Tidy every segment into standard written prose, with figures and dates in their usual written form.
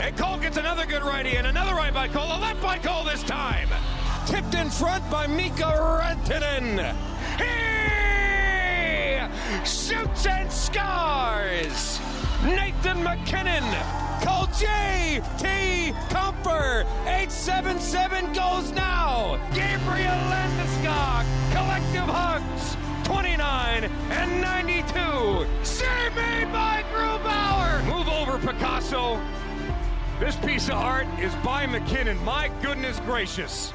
And Cole gets another good righty, and another right by Cole. A left by Cole this time. Tipped in front by Mika Rantanen. He shoots and scores. Nathan MacKinnon. Call J.T. Comfer. 877 goes now. Gabriel Landeskog. Collective hugs. 29 and 92. Save made by Grubauer. Move over, Picasso. This piece of art is by MacKinnon. My goodness gracious.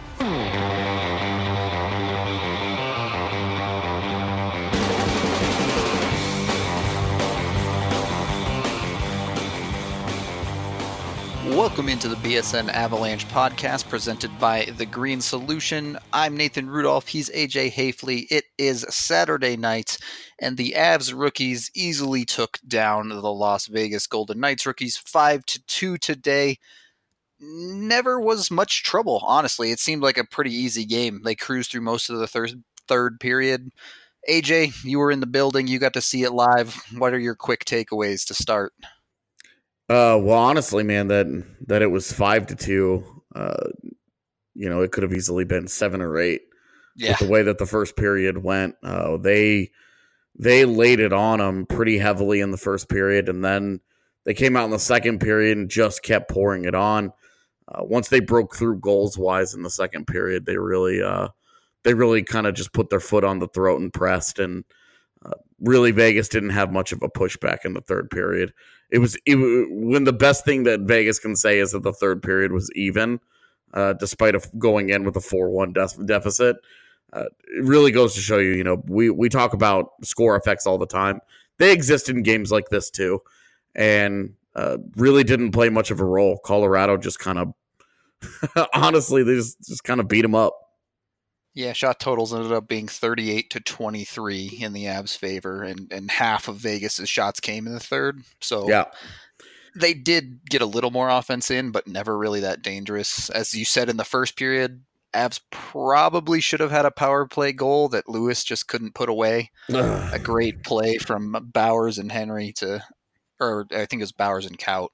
Welcome into the BSN Avalanche podcast presented by The Green Solution. I'm Nathan Rudolph. He's AJ Hafley. It is Saturday night, and the Avs rookies easily took down the Las Vegas Golden Knights rookies 5-2 today. Never was much trouble, honestly. It seemed like a pretty easy game. They cruised through most of the third period. AJ, you were in the building. You got to see it live. What are your quick takeaways to start? Well, honestly, man, that it was 5-2. It could have easily been 7 or 8. Yeah. With the way that the first period went, they laid it on them pretty heavily in the first period, and then they came out in the second period and just kept pouring it on. Once they broke through goals wise in the second period, they really kind of just put their foot on the throat and pressed, and really Vegas didn't have much of a pushback in the third period. It was when the best thing that Vegas can say is that the third period was even, despite going in with a 4-1 deficit. It really goes to show you, we talk about score effects all the time. They exist in games like this too, and really didn't play much of a role. Colorado just kind of, honestly, they just kind of beat them up. Yeah, shot totals ended up being 38-23 in the Avs' favor, and half of Vegas' shots came in the third. So yeah, they did get a little more offense in, but never really that dangerous. As you said in the first period, Avs probably should have had a power play goal that Lewis just couldn't put away. A great play from Bowers and Henry or I think it was Bowers and Kaut.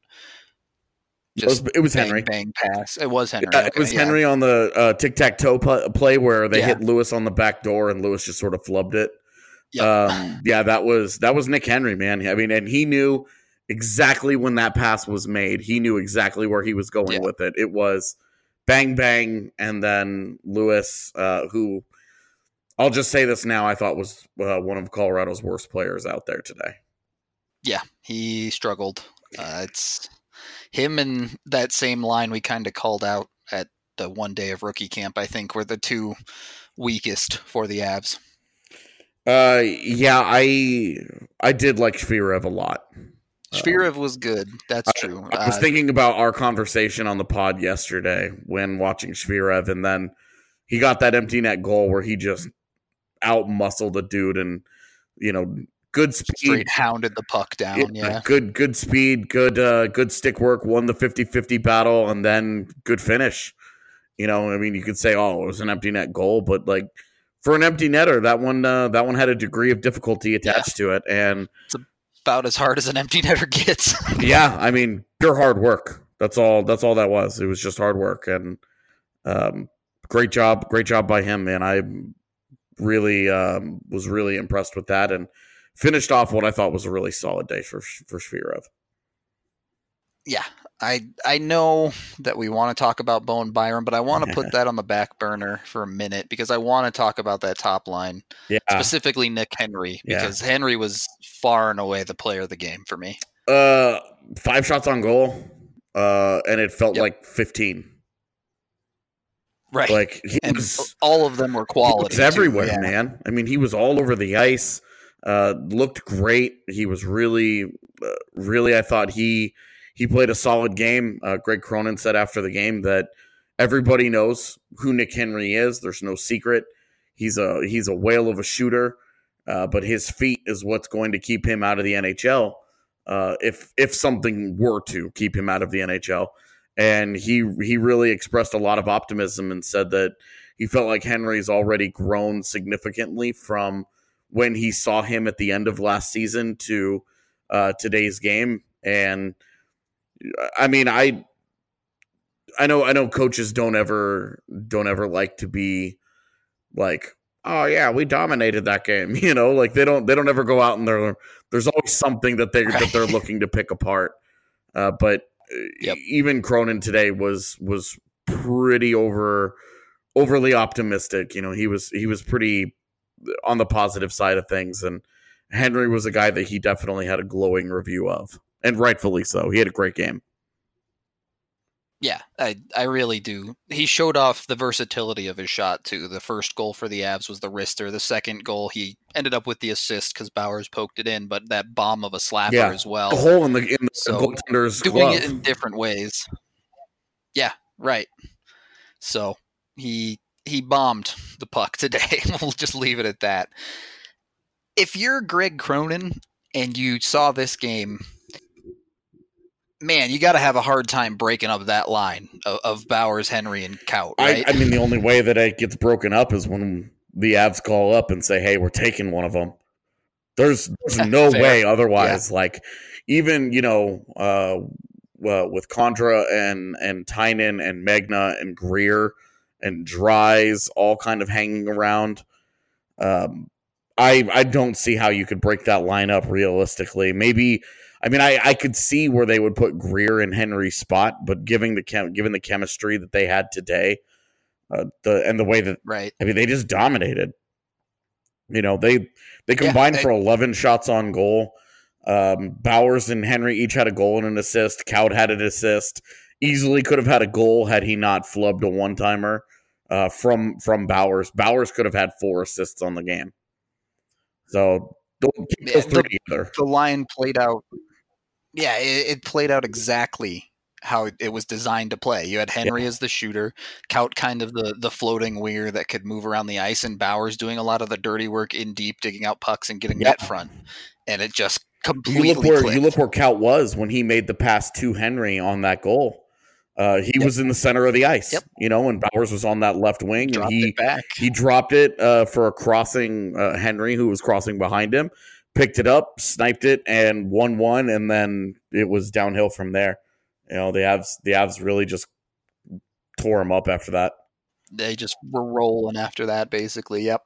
It was bang, Henry. Bang pass. It was Henry. It was Henry on the tic-tac-toe play where they hit Lewis on the back door and Lewis just sort of flubbed it. Yep. That was Nick Henry, man. I mean, and he knew exactly when that pass was made. He knew exactly where he was going with it. It was bang, bang, and then Lewis, who I'll just say this now, I thought was one of Colorado's worst players out there today. Yeah, he struggled. It's him and that same line we kind of called out at the one day of rookie camp, I think, were the two weakest for the Avs. I did like Shvirev a lot. Shvirev was good. That's true. I was thinking about our conversation on the pod yesterday when watching Shvirev, and then he got that empty net goal where he just out-muscled a dude and, good speed. Straight hounded the puck down, yeah. Good speed, good stick work, won the 50-50 battle, and then good finish. You could say, oh, it was an empty net goal, but like for an empty netter, that one had a degree of difficulty attached to it, and it's about as hard as an empty netter gets. Yeah, I mean, pure hard work. That's all that was. It was just hard work, and great job by him, man. I really was really impressed with that, and finished off what I thought was a really solid day for Shvirev. Yeah, I know that we want to talk about Bowen Byram, but I want to put that on the back burner for a minute because I want to talk about that top line, specifically Nick Henry, because Henry was far and away the player of the game for me. 5 shots on goal, and it felt like 15. Right, like all of them were quality. He was everywhere, man. I mean, he was all over the ice. Looked great. He was really, I thought he played a solid game. Greg Cronin said after the game that everybody knows who Nick Henry is. There's no secret. He's a whale of a shooter, but his feet is what's going to keep him out of the NHL. If something were to keep him out of the NHL, and he really expressed a lot of optimism and said that he felt like Henry's already grown significantly from when he saw him at the end of last season to today's game. And I mean, I know coaches don't ever like to be like, oh yeah, we dominated that game. Like they don't ever go out and there's always something that they're looking to pick apart. But Yep. even Cronin today was pretty overly optimistic. He was pretty on the positive side of things, and Henry was a guy that he definitely had a glowing review of, and rightfully so. He had a great game. Yeah, I really do. He showed off the versatility of his shot, too. The first goal for the Avs was the wrister. The second goal, he ended up with the assist because Bowers poked it in, but that bomb of a slapper as well. The hole in the so goaltender's doing glove. it in different ways. Yeah, right. So he bombed the puck today. We'll just leave it at that. If you're Greg Cronin and you saw this game, man, you got to have a hard time breaking up that line of Bowers, Henry, and Kaut, right? I mean, the only way that it gets broken up is when the Avs call up and say, hey, we're taking one of them. There's no way otherwise. Yeah. Like, even, with Condra and Tynan and Magna and Greer and Dries all kind of hanging around, I don't see how you could break that line up realistically. Maybe... I mean, I could see where they would put Greer in Henry's spot, but given the chemistry that they had today, the way that right, I mean, they just dominated. They combined for 11 shots on goal. Bowers and Henry each had a goal and an assist. Kaut had an assist. Easily could have had a goal had he not flubbed a one-timer from Bowers. Bowers could have had 4 assists on the game. So don't keep those three together. The line played out. Yeah, it played out exactly how it was designed to play. You had Henry as the shooter, Kaut kind of the floating winger that could move around the ice, and Bowers doing a lot of the dirty work in deep, digging out pucks and getting net front. And it just completely clicked. You look where Kaut was when he made the pass to Henry on that goal. He was in the center of the ice, and Bowers was on that left wing, and he dropped it for a crossing Henry, who was crossing behind him, picked it up, sniped it, and 1-1, and then it was downhill from there. The Avs really just tore him up after that. They just were rolling after that, basically. Yep.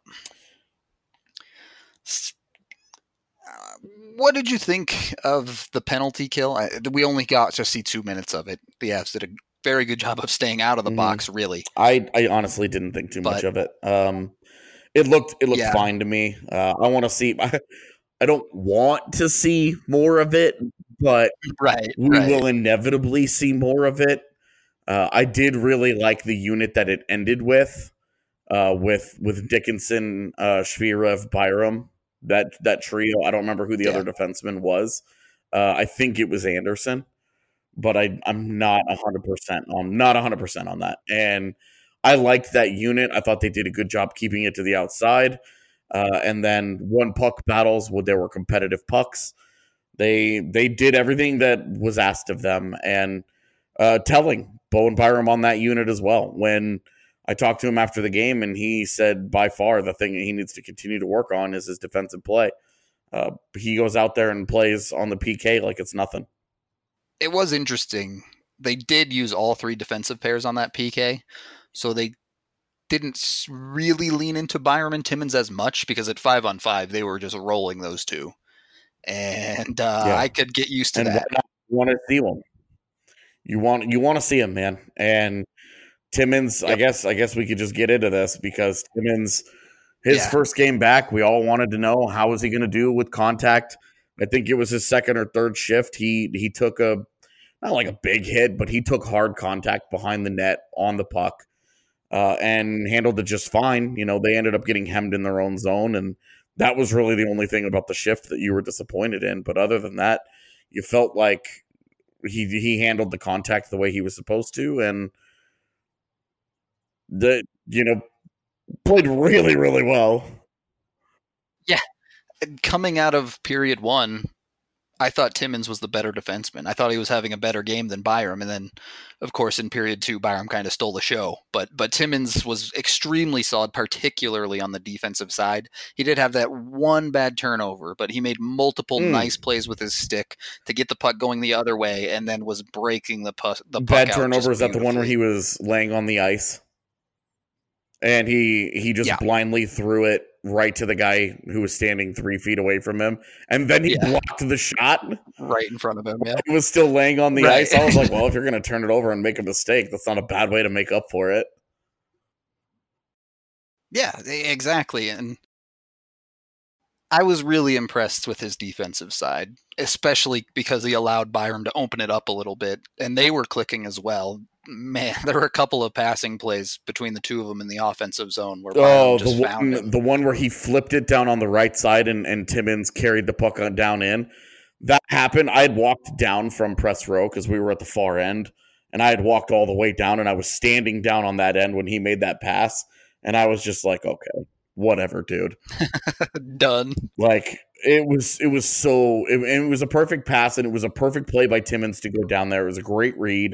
What did you think of the penalty kill? We only got to see 2 minutes of it. The Avs did a very good job of staying out of the box, really. I honestly didn't think too much of it. It looked fine to me. I want to see... I don't want to see more of it, but we will inevitably see more of it. I did really like the unit that it ended with Dickinson, Shvirev, Byram. That trio. I don't remember who the other defenseman was. I think it was Anderson, but I'm not 100%. I'm not 100% on that. And I liked that unit. I thought they did a good job keeping it to the outside. And then won puck battles where there were competitive pucks. They did everything that was asked of them, and telling Bowen Byram on that unit as well. When I talked to him after the game, and he said by far the thing that he needs to continue to work on is his defensive play. He goes out there and plays on the PK like it's nothing. It was interesting. They did use all 3 defensive pairs on that PK, so they didn't really lean into Byram and Timmins as much, because at 5-on-5 they were just rolling those two, and I could get used to that. You want to see them. You want to see him, man. And Timmins, I guess we could just get into this, because Timmins, his first game back, we all wanted to know how was he going to do with contact. I think it was his second or third shift. He took not like a big hit, but he took hard contact behind the net on the puck. And handled it just fine. They ended up getting hemmed in their own zone, and that was really the only thing about the shift that you were disappointed in. But other than that, you felt like he handled the contact the way he was supposed to, and played really, really well. Yeah, coming out of period 1, I thought Timmins was the better defenseman. I thought he was having a better game than Byram. And then, of course, in period 2, Byram kind of stole the show. But Timmins was extremely solid, particularly on the defensive side. He did have that one bad turnover, but he made multiple nice plays with his stick to get the puck going the other way, and then was breaking the puck bad out turnover, is that the one where he was laying on the ice? And he just blindly threw it right to the guy who was standing 3 feet away from him. And then he blocked the shot. Right in front of him, yeah. He was still laying on the ice. I was like, well, if you're going to turn it over and make a mistake, that's not a bad way to make up for it. Yeah, exactly. And I was really impressed with his defensive side, especially because he allowed Byram to open it up a little bit. And they were clicking as well. Man, there were a couple of passing plays between the two of them in the offensive zone where Byram just found him. The one where he flipped it down on the right side and Timmins carried the puck down in. That happened. I had walked down from press row because we were at the far end, and I had walked all the way down, and I was standing down on that end when he made that pass, and I was just like, okay, whatever, dude. Done. Like, it was a perfect pass, and it was a perfect play by Timmins to go down there. It was a great read.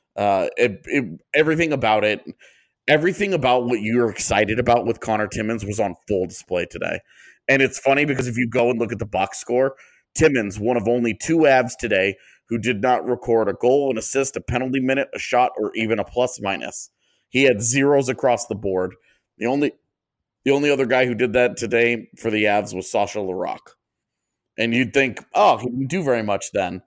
Everything about it, everything about what you're excited about with Connor Timmins was on full display today. And it's funny because if you go and look at the box score, Timmins, one of only 2 Avs today who did not record a goal, an assist, a penalty minute, a shot, or even a plus minus. He had zeros across the board. The only other guy who did that today for the Avs was Sasha Larocque. And you'd think, oh, he didn't do very much then.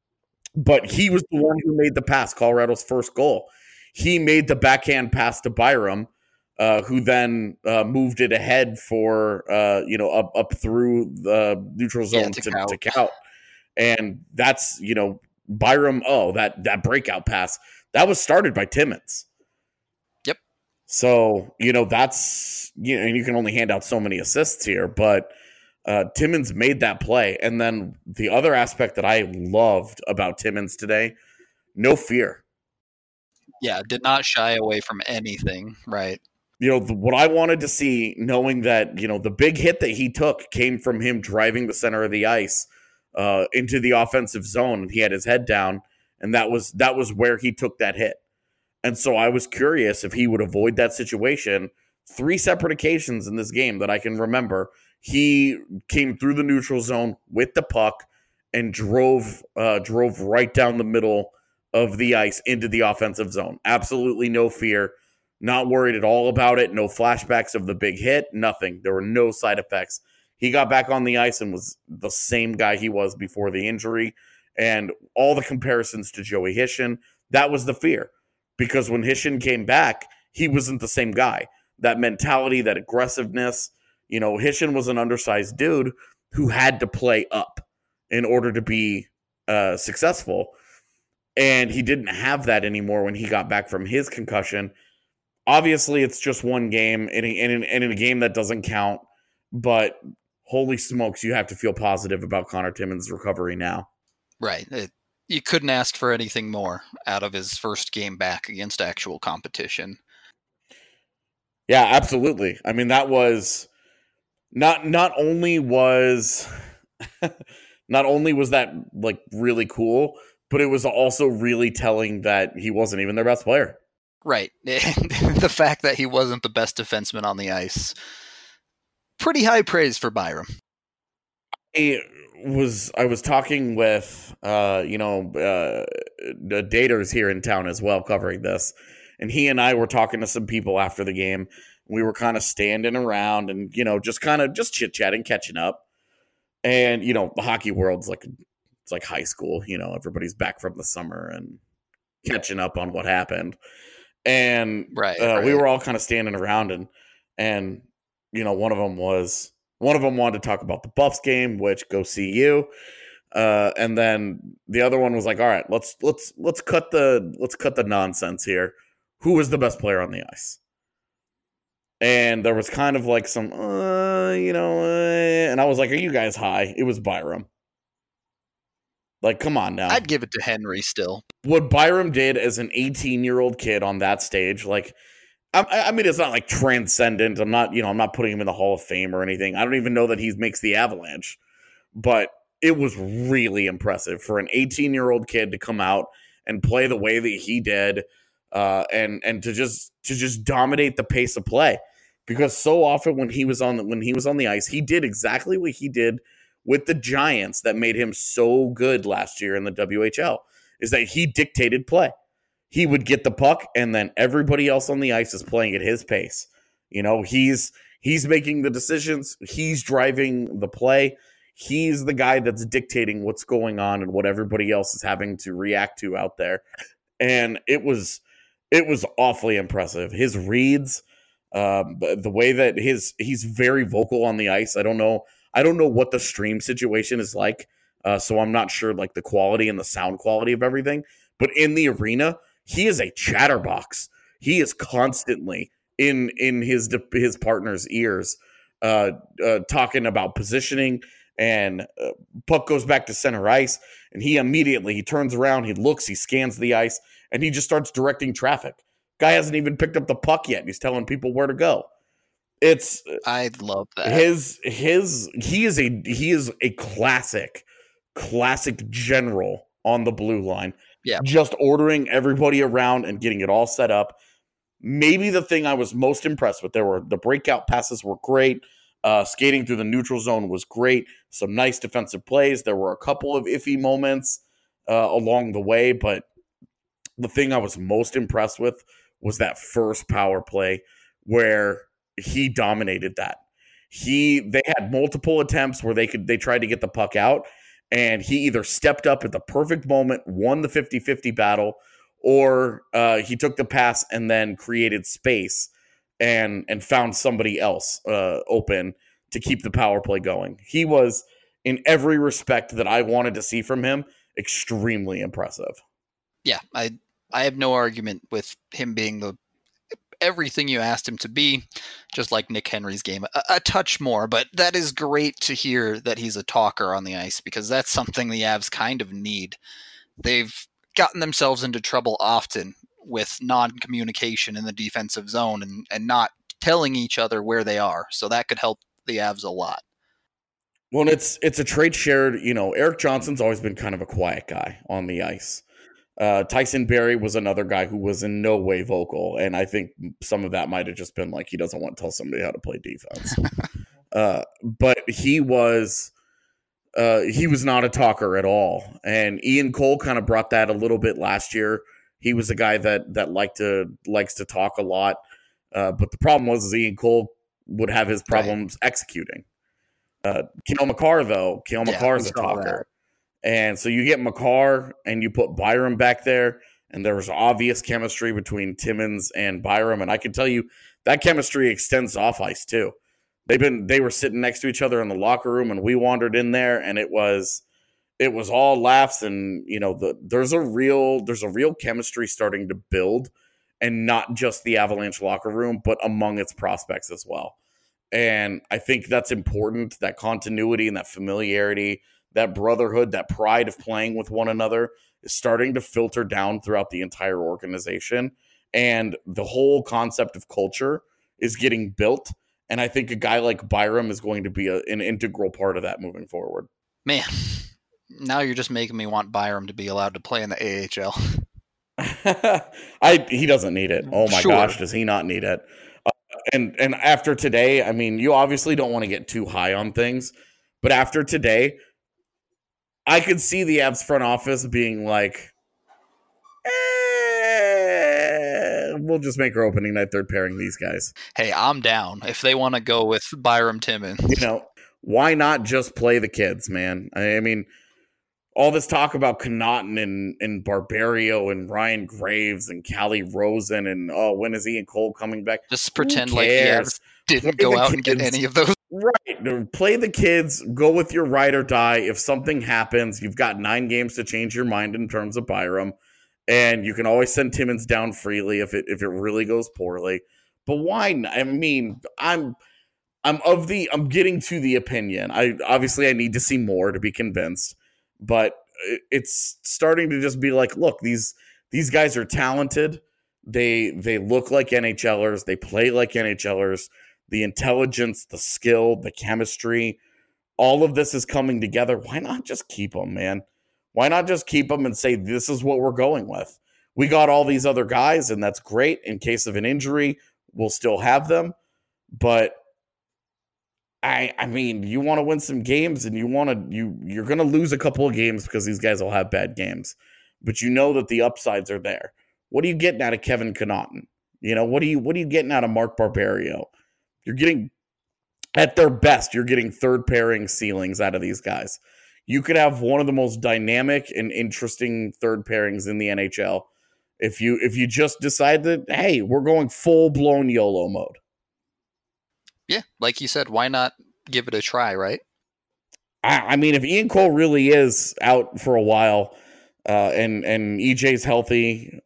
But he was the one who made the pass, Colorado's first goal. He made the backhand pass to Byram, who then moved it ahead for, up through the neutral zone to count. And that's, Byram, that breakout pass, that was started by Timmins. Yep. So, that's, and you can only hand out so many assists here, but Timmins made that play. And then the other aspect that I loved about Timmins today, no fear. Yeah, did not shy away from anything, right? What I wanted to see, knowing that, the big hit that he took came from him driving the center of the ice into the offensive zone. And he had his head down, and that was where he took that hit. And so I was curious if he would avoid that situation. 3 separate occasions in this game that I can remember, he came through the neutral zone with the puck and drove right down the middle of the ice into the offensive zone. Absolutely no fear, not worried at all about it. No flashbacks of the big hit, nothing. There were no side effects. He got back on the ice and was the same guy he was before the injury. And all the comparisons to Joey Hishyn, that was the fear. Because when Hishyn came back, he wasn't the same guy. That mentality, that aggressiveness, Hishyn was an undersized dude who had to play up in order to be successful. And he didn't have that anymore when he got back from his concussion. Obviously, it's just one game and in a game that doesn't count. But holy smokes, you have to feel positive about Connor Timmins' recovery now. Right. You couldn't ask for anything more out of his first game back against actual competition. Yeah, absolutely. I mean, that was not only was that like really cool, but it was also really telling that he wasn't even their best player. Right. The fact that he wasn't the best defenseman on the ice, pretty high praise for Byram. I was talking with the daters here in town as well, covering this, and he and I were talking to some people after the game. We were kind of standing around and just chit-chatting, catching up. And the hockey world's it's like high school. Everybody's back from the summer and catching up on what happened. And right. We were all kind of standing around and one of them wanted to talk about the Buffs game, which go see you. And then the other one was like, all right, let's cut the nonsense here. Who was the best player on the ice? And there was kind of like some, and I was like, are you guys high? It was Byram. Like, come on now. I'd give it to Henry still. What Byram did as an 18-year-old kid on that stage, like, I mean, it's not like transcendent. I'm not putting him in the Hall of Fame or anything. I don't even know that he makes the Avalanche. But it was really impressive for an 18-year-old kid to come out and play the way that he did, and to just dominate the pace of play. Because so often when he was on the ice, he did exactly what he did with the Giants that made him so good last year in the WHL, is that he dictated play. He would get the puck, and then everybody else on the ice is playing at his pace. He's making the decisions. He's driving the play. He's the guy that's dictating what's going on and what everybody else is having to react to out there. And it was awfully impressive. His reads, the way that he's very vocal on the ice. I don't know what the stream situation is like. So I'm not sure like the quality and the sound quality of everything, but in the arena, he is a chatterbox. He is constantly in his partner's ears, talking about positioning, and puck goes back to center ice, and he turns around, he looks, he scans the ice, and he just starts directing traffic. Guy hasn't even picked up the puck yet, and he's telling people where to go. I love that. He is a classic general on the blue line. Yeah. Just ordering everybody around and getting it all set up. Maybe the thing I was most impressed with, the breakout passes were great. Skating through the neutral zone was great. Some nice defensive plays. There were a couple of iffy moments along the way, but the thing I was most impressed with was that first power play where he dominated that. They had multiple attempts where they tried to get the puck out, and he either stepped up at the perfect moment, won the 50-50 battle, or he took the pass and then created space and found somebody else open to keep the power play going. He was, in every respect that I wanted to see from him, extremely impressive. Yeah, I have no argument with him being everything you asked him to be, just like Nick Henry's game. A touch more, but that is great to hear that he's a talker on the ice, because that's something the Avs kind of need. They've gotten themselves into trouble often with non-communication in the defensive zone and not telling each other where they are. So that could help the Avs a lot. Well, it's a trait shared. Erik Johnson's always been kind of a quiet guy on the ice. Tyson Barrie was another guy who was in no way vocal, and I think some of that might have just been like he doesn't want to tell somebody how to play defense. But he was not a talker at all, and Ian Cole kind of brought that a little bit last year. He was a guy that likes to talk a lot, but the problem was Ian Cole would have his problems executing. Cale Makar is a talker. And so you get Makar and you put Byram back there, and there was obvious chemistry between Timmins and Byram. And I can tell you that chemistry extends off ice too. They were sitting next to each other in the locker room, and we wandered in there, and it was all laughs. And there's a real chemistry starting to build, and not just the Avalanche locker room, but among its prospects as well. And I think that's important, that continuity and that familiarity, that brotherhood, that pride of playing with one another is starting to filter down throughout the entire organization. And the whole concept of culture is getting built. And I think a guy like Byram is going to be an integral part of that moving forward. Man, now you're just making me want Byram to be allowed to play in the AHL. He doesn't need it. Oh my gosh, does he not need it? And after today, I mean, you obviously don't want to get too high on things, but after today, I could see the Avs front office being like, we'll just make our opening night third pairing these guys. Hey, I'm down if they want to go with Byram Timmins. Why not just play the kids, man? I mean, all this talk about Connaughton and Barbario and Ryan Graves and Callie Rosen and, when is Ian Cole coming back? Just pretend like the Avs didn't go out and get any of those. Right. Play the kids. Go with your ride or die. If something happens, you've got 9 games to change your mind in terms of Byram. And you can always send Timmins down freely if it really goes poorly. But why not? I mean, I'm getting to the opinion. I need to see more to be convinced. But it's starting to just be like, look, these guys are talented. They look like NHLers. They play like NHLers. The intelligence, the skill, the chemistry, all of this is coming together. Why not just keep them, man? Why not just keep them and say, this is what we're going with? We got all these other guys, and that's great. In case of an injury, we'll still have them. But I mean, you want to win some games, and you're going to lose a couple of games because these guys will have bad games. But you know that the upsides are there. What are you getting out of Kevin Connaughton? What are you getting out of Mark Barberio? You're getting, at their best, you're getting third pairing ceilings out of these guys. You could have one of the most dynamic and interesting third pairings in the NHL if you just decide that, hey, we're going full blown YOLO mode. Yeah, like you said, why not give it a try, right? I mean, if Ian Cole really is out for a while, and EJ's healthy,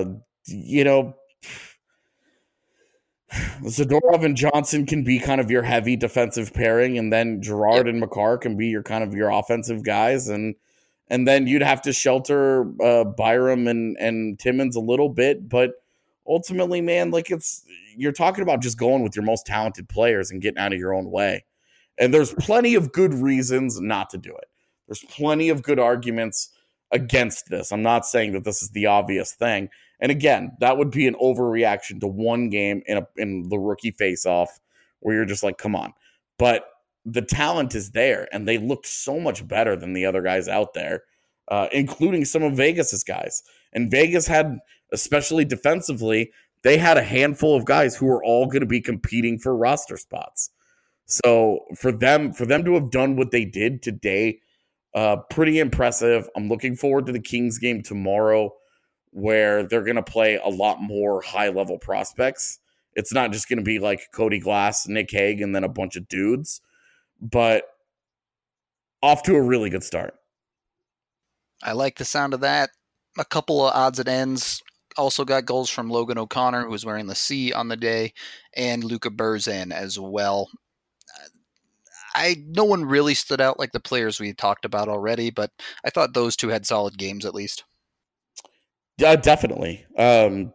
Zadorov and Johnson can be kind of your heavy defensive pairing, and then Girard and Makar can be your kind of your offensive guys, and then you'd have to shelter Byram and Timmins a little bit, but ultimately, man, like you're talking about just going with your most talented players and getting out of your own way. And there's plenty of good reasons not to do it. There's plenty of good arguments against this. I'm not saying that this is the obvious thing. And again, that would be an overreaction to one game in the rookie face-off where you're just like, come on. But the talent is there, and they looked so much better than the other guys out there, including some of Vegas's guys. And Vegas had, especially defensively, they had a handful of guys who were all going to be competing for roster spots. So for them to have done what they did today, pretty impressive. I'm looking forward to the Kings game tomorrow, where they're going to play a lot more high-level prospects. It's not just going to be like Cody Glass, Nick Hague, and then a bunch of dudes, but off to a really good start. I like the sound of that. A couple of odds and ends. Also got goals from Logan O'Connor, who was wearing the C on the day, and Luka Burzan as well. No one really stood out like the players we talked about already, but I thought those two had solid games at least. Yeah, definitely. I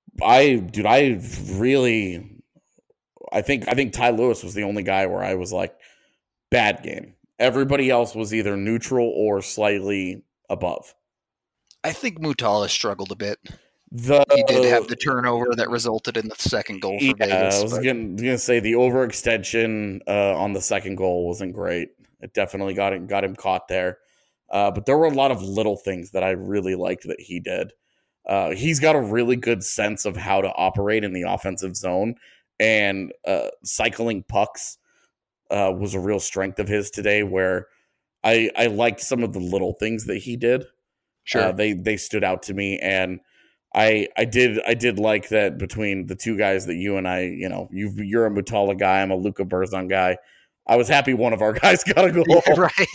think Ty Lewis was the only guy where I was like, bad game. Everybody else was either neutral or slightly above. I think Mutala struggled a bit. He did have the turnover that resulted in the second goal for Vegas. I was going to say the overextension on the second goal wasn't great. It definitely got him caught there. But there were a lot of little things that I really liked that he did. He's got a really good sense of how to operate in the offensive zone, and cycling pucks was a real strength of his today, where I liked some of the little things that he did. Sure. They stood out to me, and I did like that between the two guys that you and I, you're a Mutala guy, I'm a Luka Burzan guy. I was happy one of our guys got a goal. Yeah, right.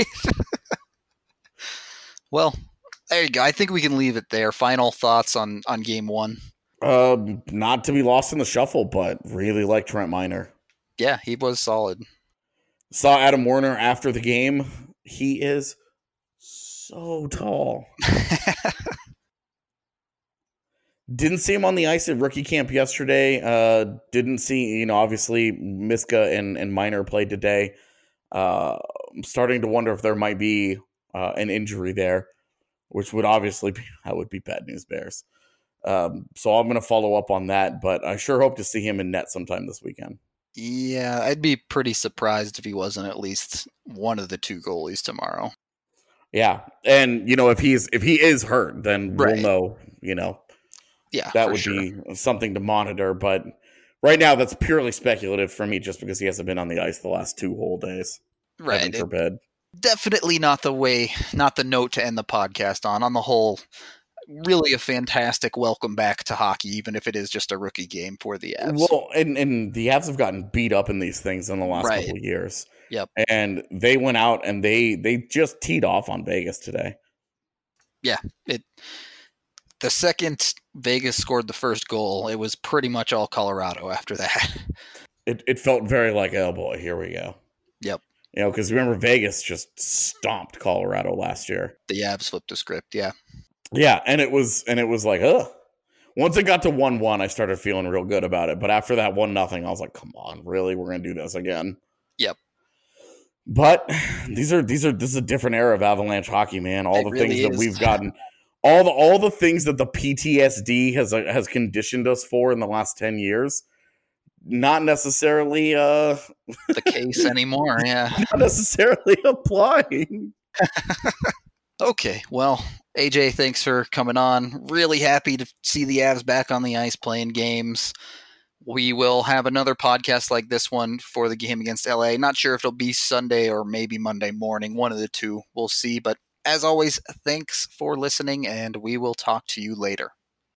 Well, there you go. I think we can leave it there. Final thoughts on game one? Not to be lost in the shuffle, but really like Trent Miner. Yeah, he was solid. Saw Adam Werner after the game. He is so tall. Didn't see him on the ice at rookie camp yesterday. Didn't see, obviously Miska and Miner played today. I'm starting to wonder if there might be an injury there, which would obviously be bad news Bears. So I'm going to follow up on that, but I sure hope to see him in net sometime this weekend. Yeah, I'd be pretty surprised if he wasn't at least one of the two goalies tomorrow. Yeah, and if he is hurt, then we'll know. Yeah, that would be something to monitor. But right now, that's purely speculative for me, just because he hasn't been on the ice the last 2 whole days. Right, Heaven forbid. Definitely not the note to end the podcast on. On the whole, really a fantastic welcome back to hockey, even if it is just a rookie game for the Avs. Well, and the Avs have gotten beat up in these things in the last couple of years. Yep. And they went out and they just teed off on Vegas today. Yeah. The second Vegas scored the first goal, it was pretty much all Colorado after that. It felt very like, oh boy, here we go. Yep. Because remember, Vegas just stomped Colorado last year. The Avs flipped the script, yeah. Yeah, and it was like, ugh. Once it got to 1-1, I started feeling real good about it. But after that 1-0, I was like, come on, really? We're going to do this again? Yep. But this is a different era of Avalanche hockey, man. All the things that we've gotten, all the things that the PTSD has conditioned us for in the last 10 years, not necessarily the case anymore. Yeah, not necessarily applying. Okay, well, AJ, thanks for coming on. Really happy to see the Avs back on the ice playing games. We will have another podcast like this one for the game against LA. Not sure if it'll be Sunday or maybe Monday morning. One of the two. We'll see. But as always, thanks for listening, and we will talk to you later.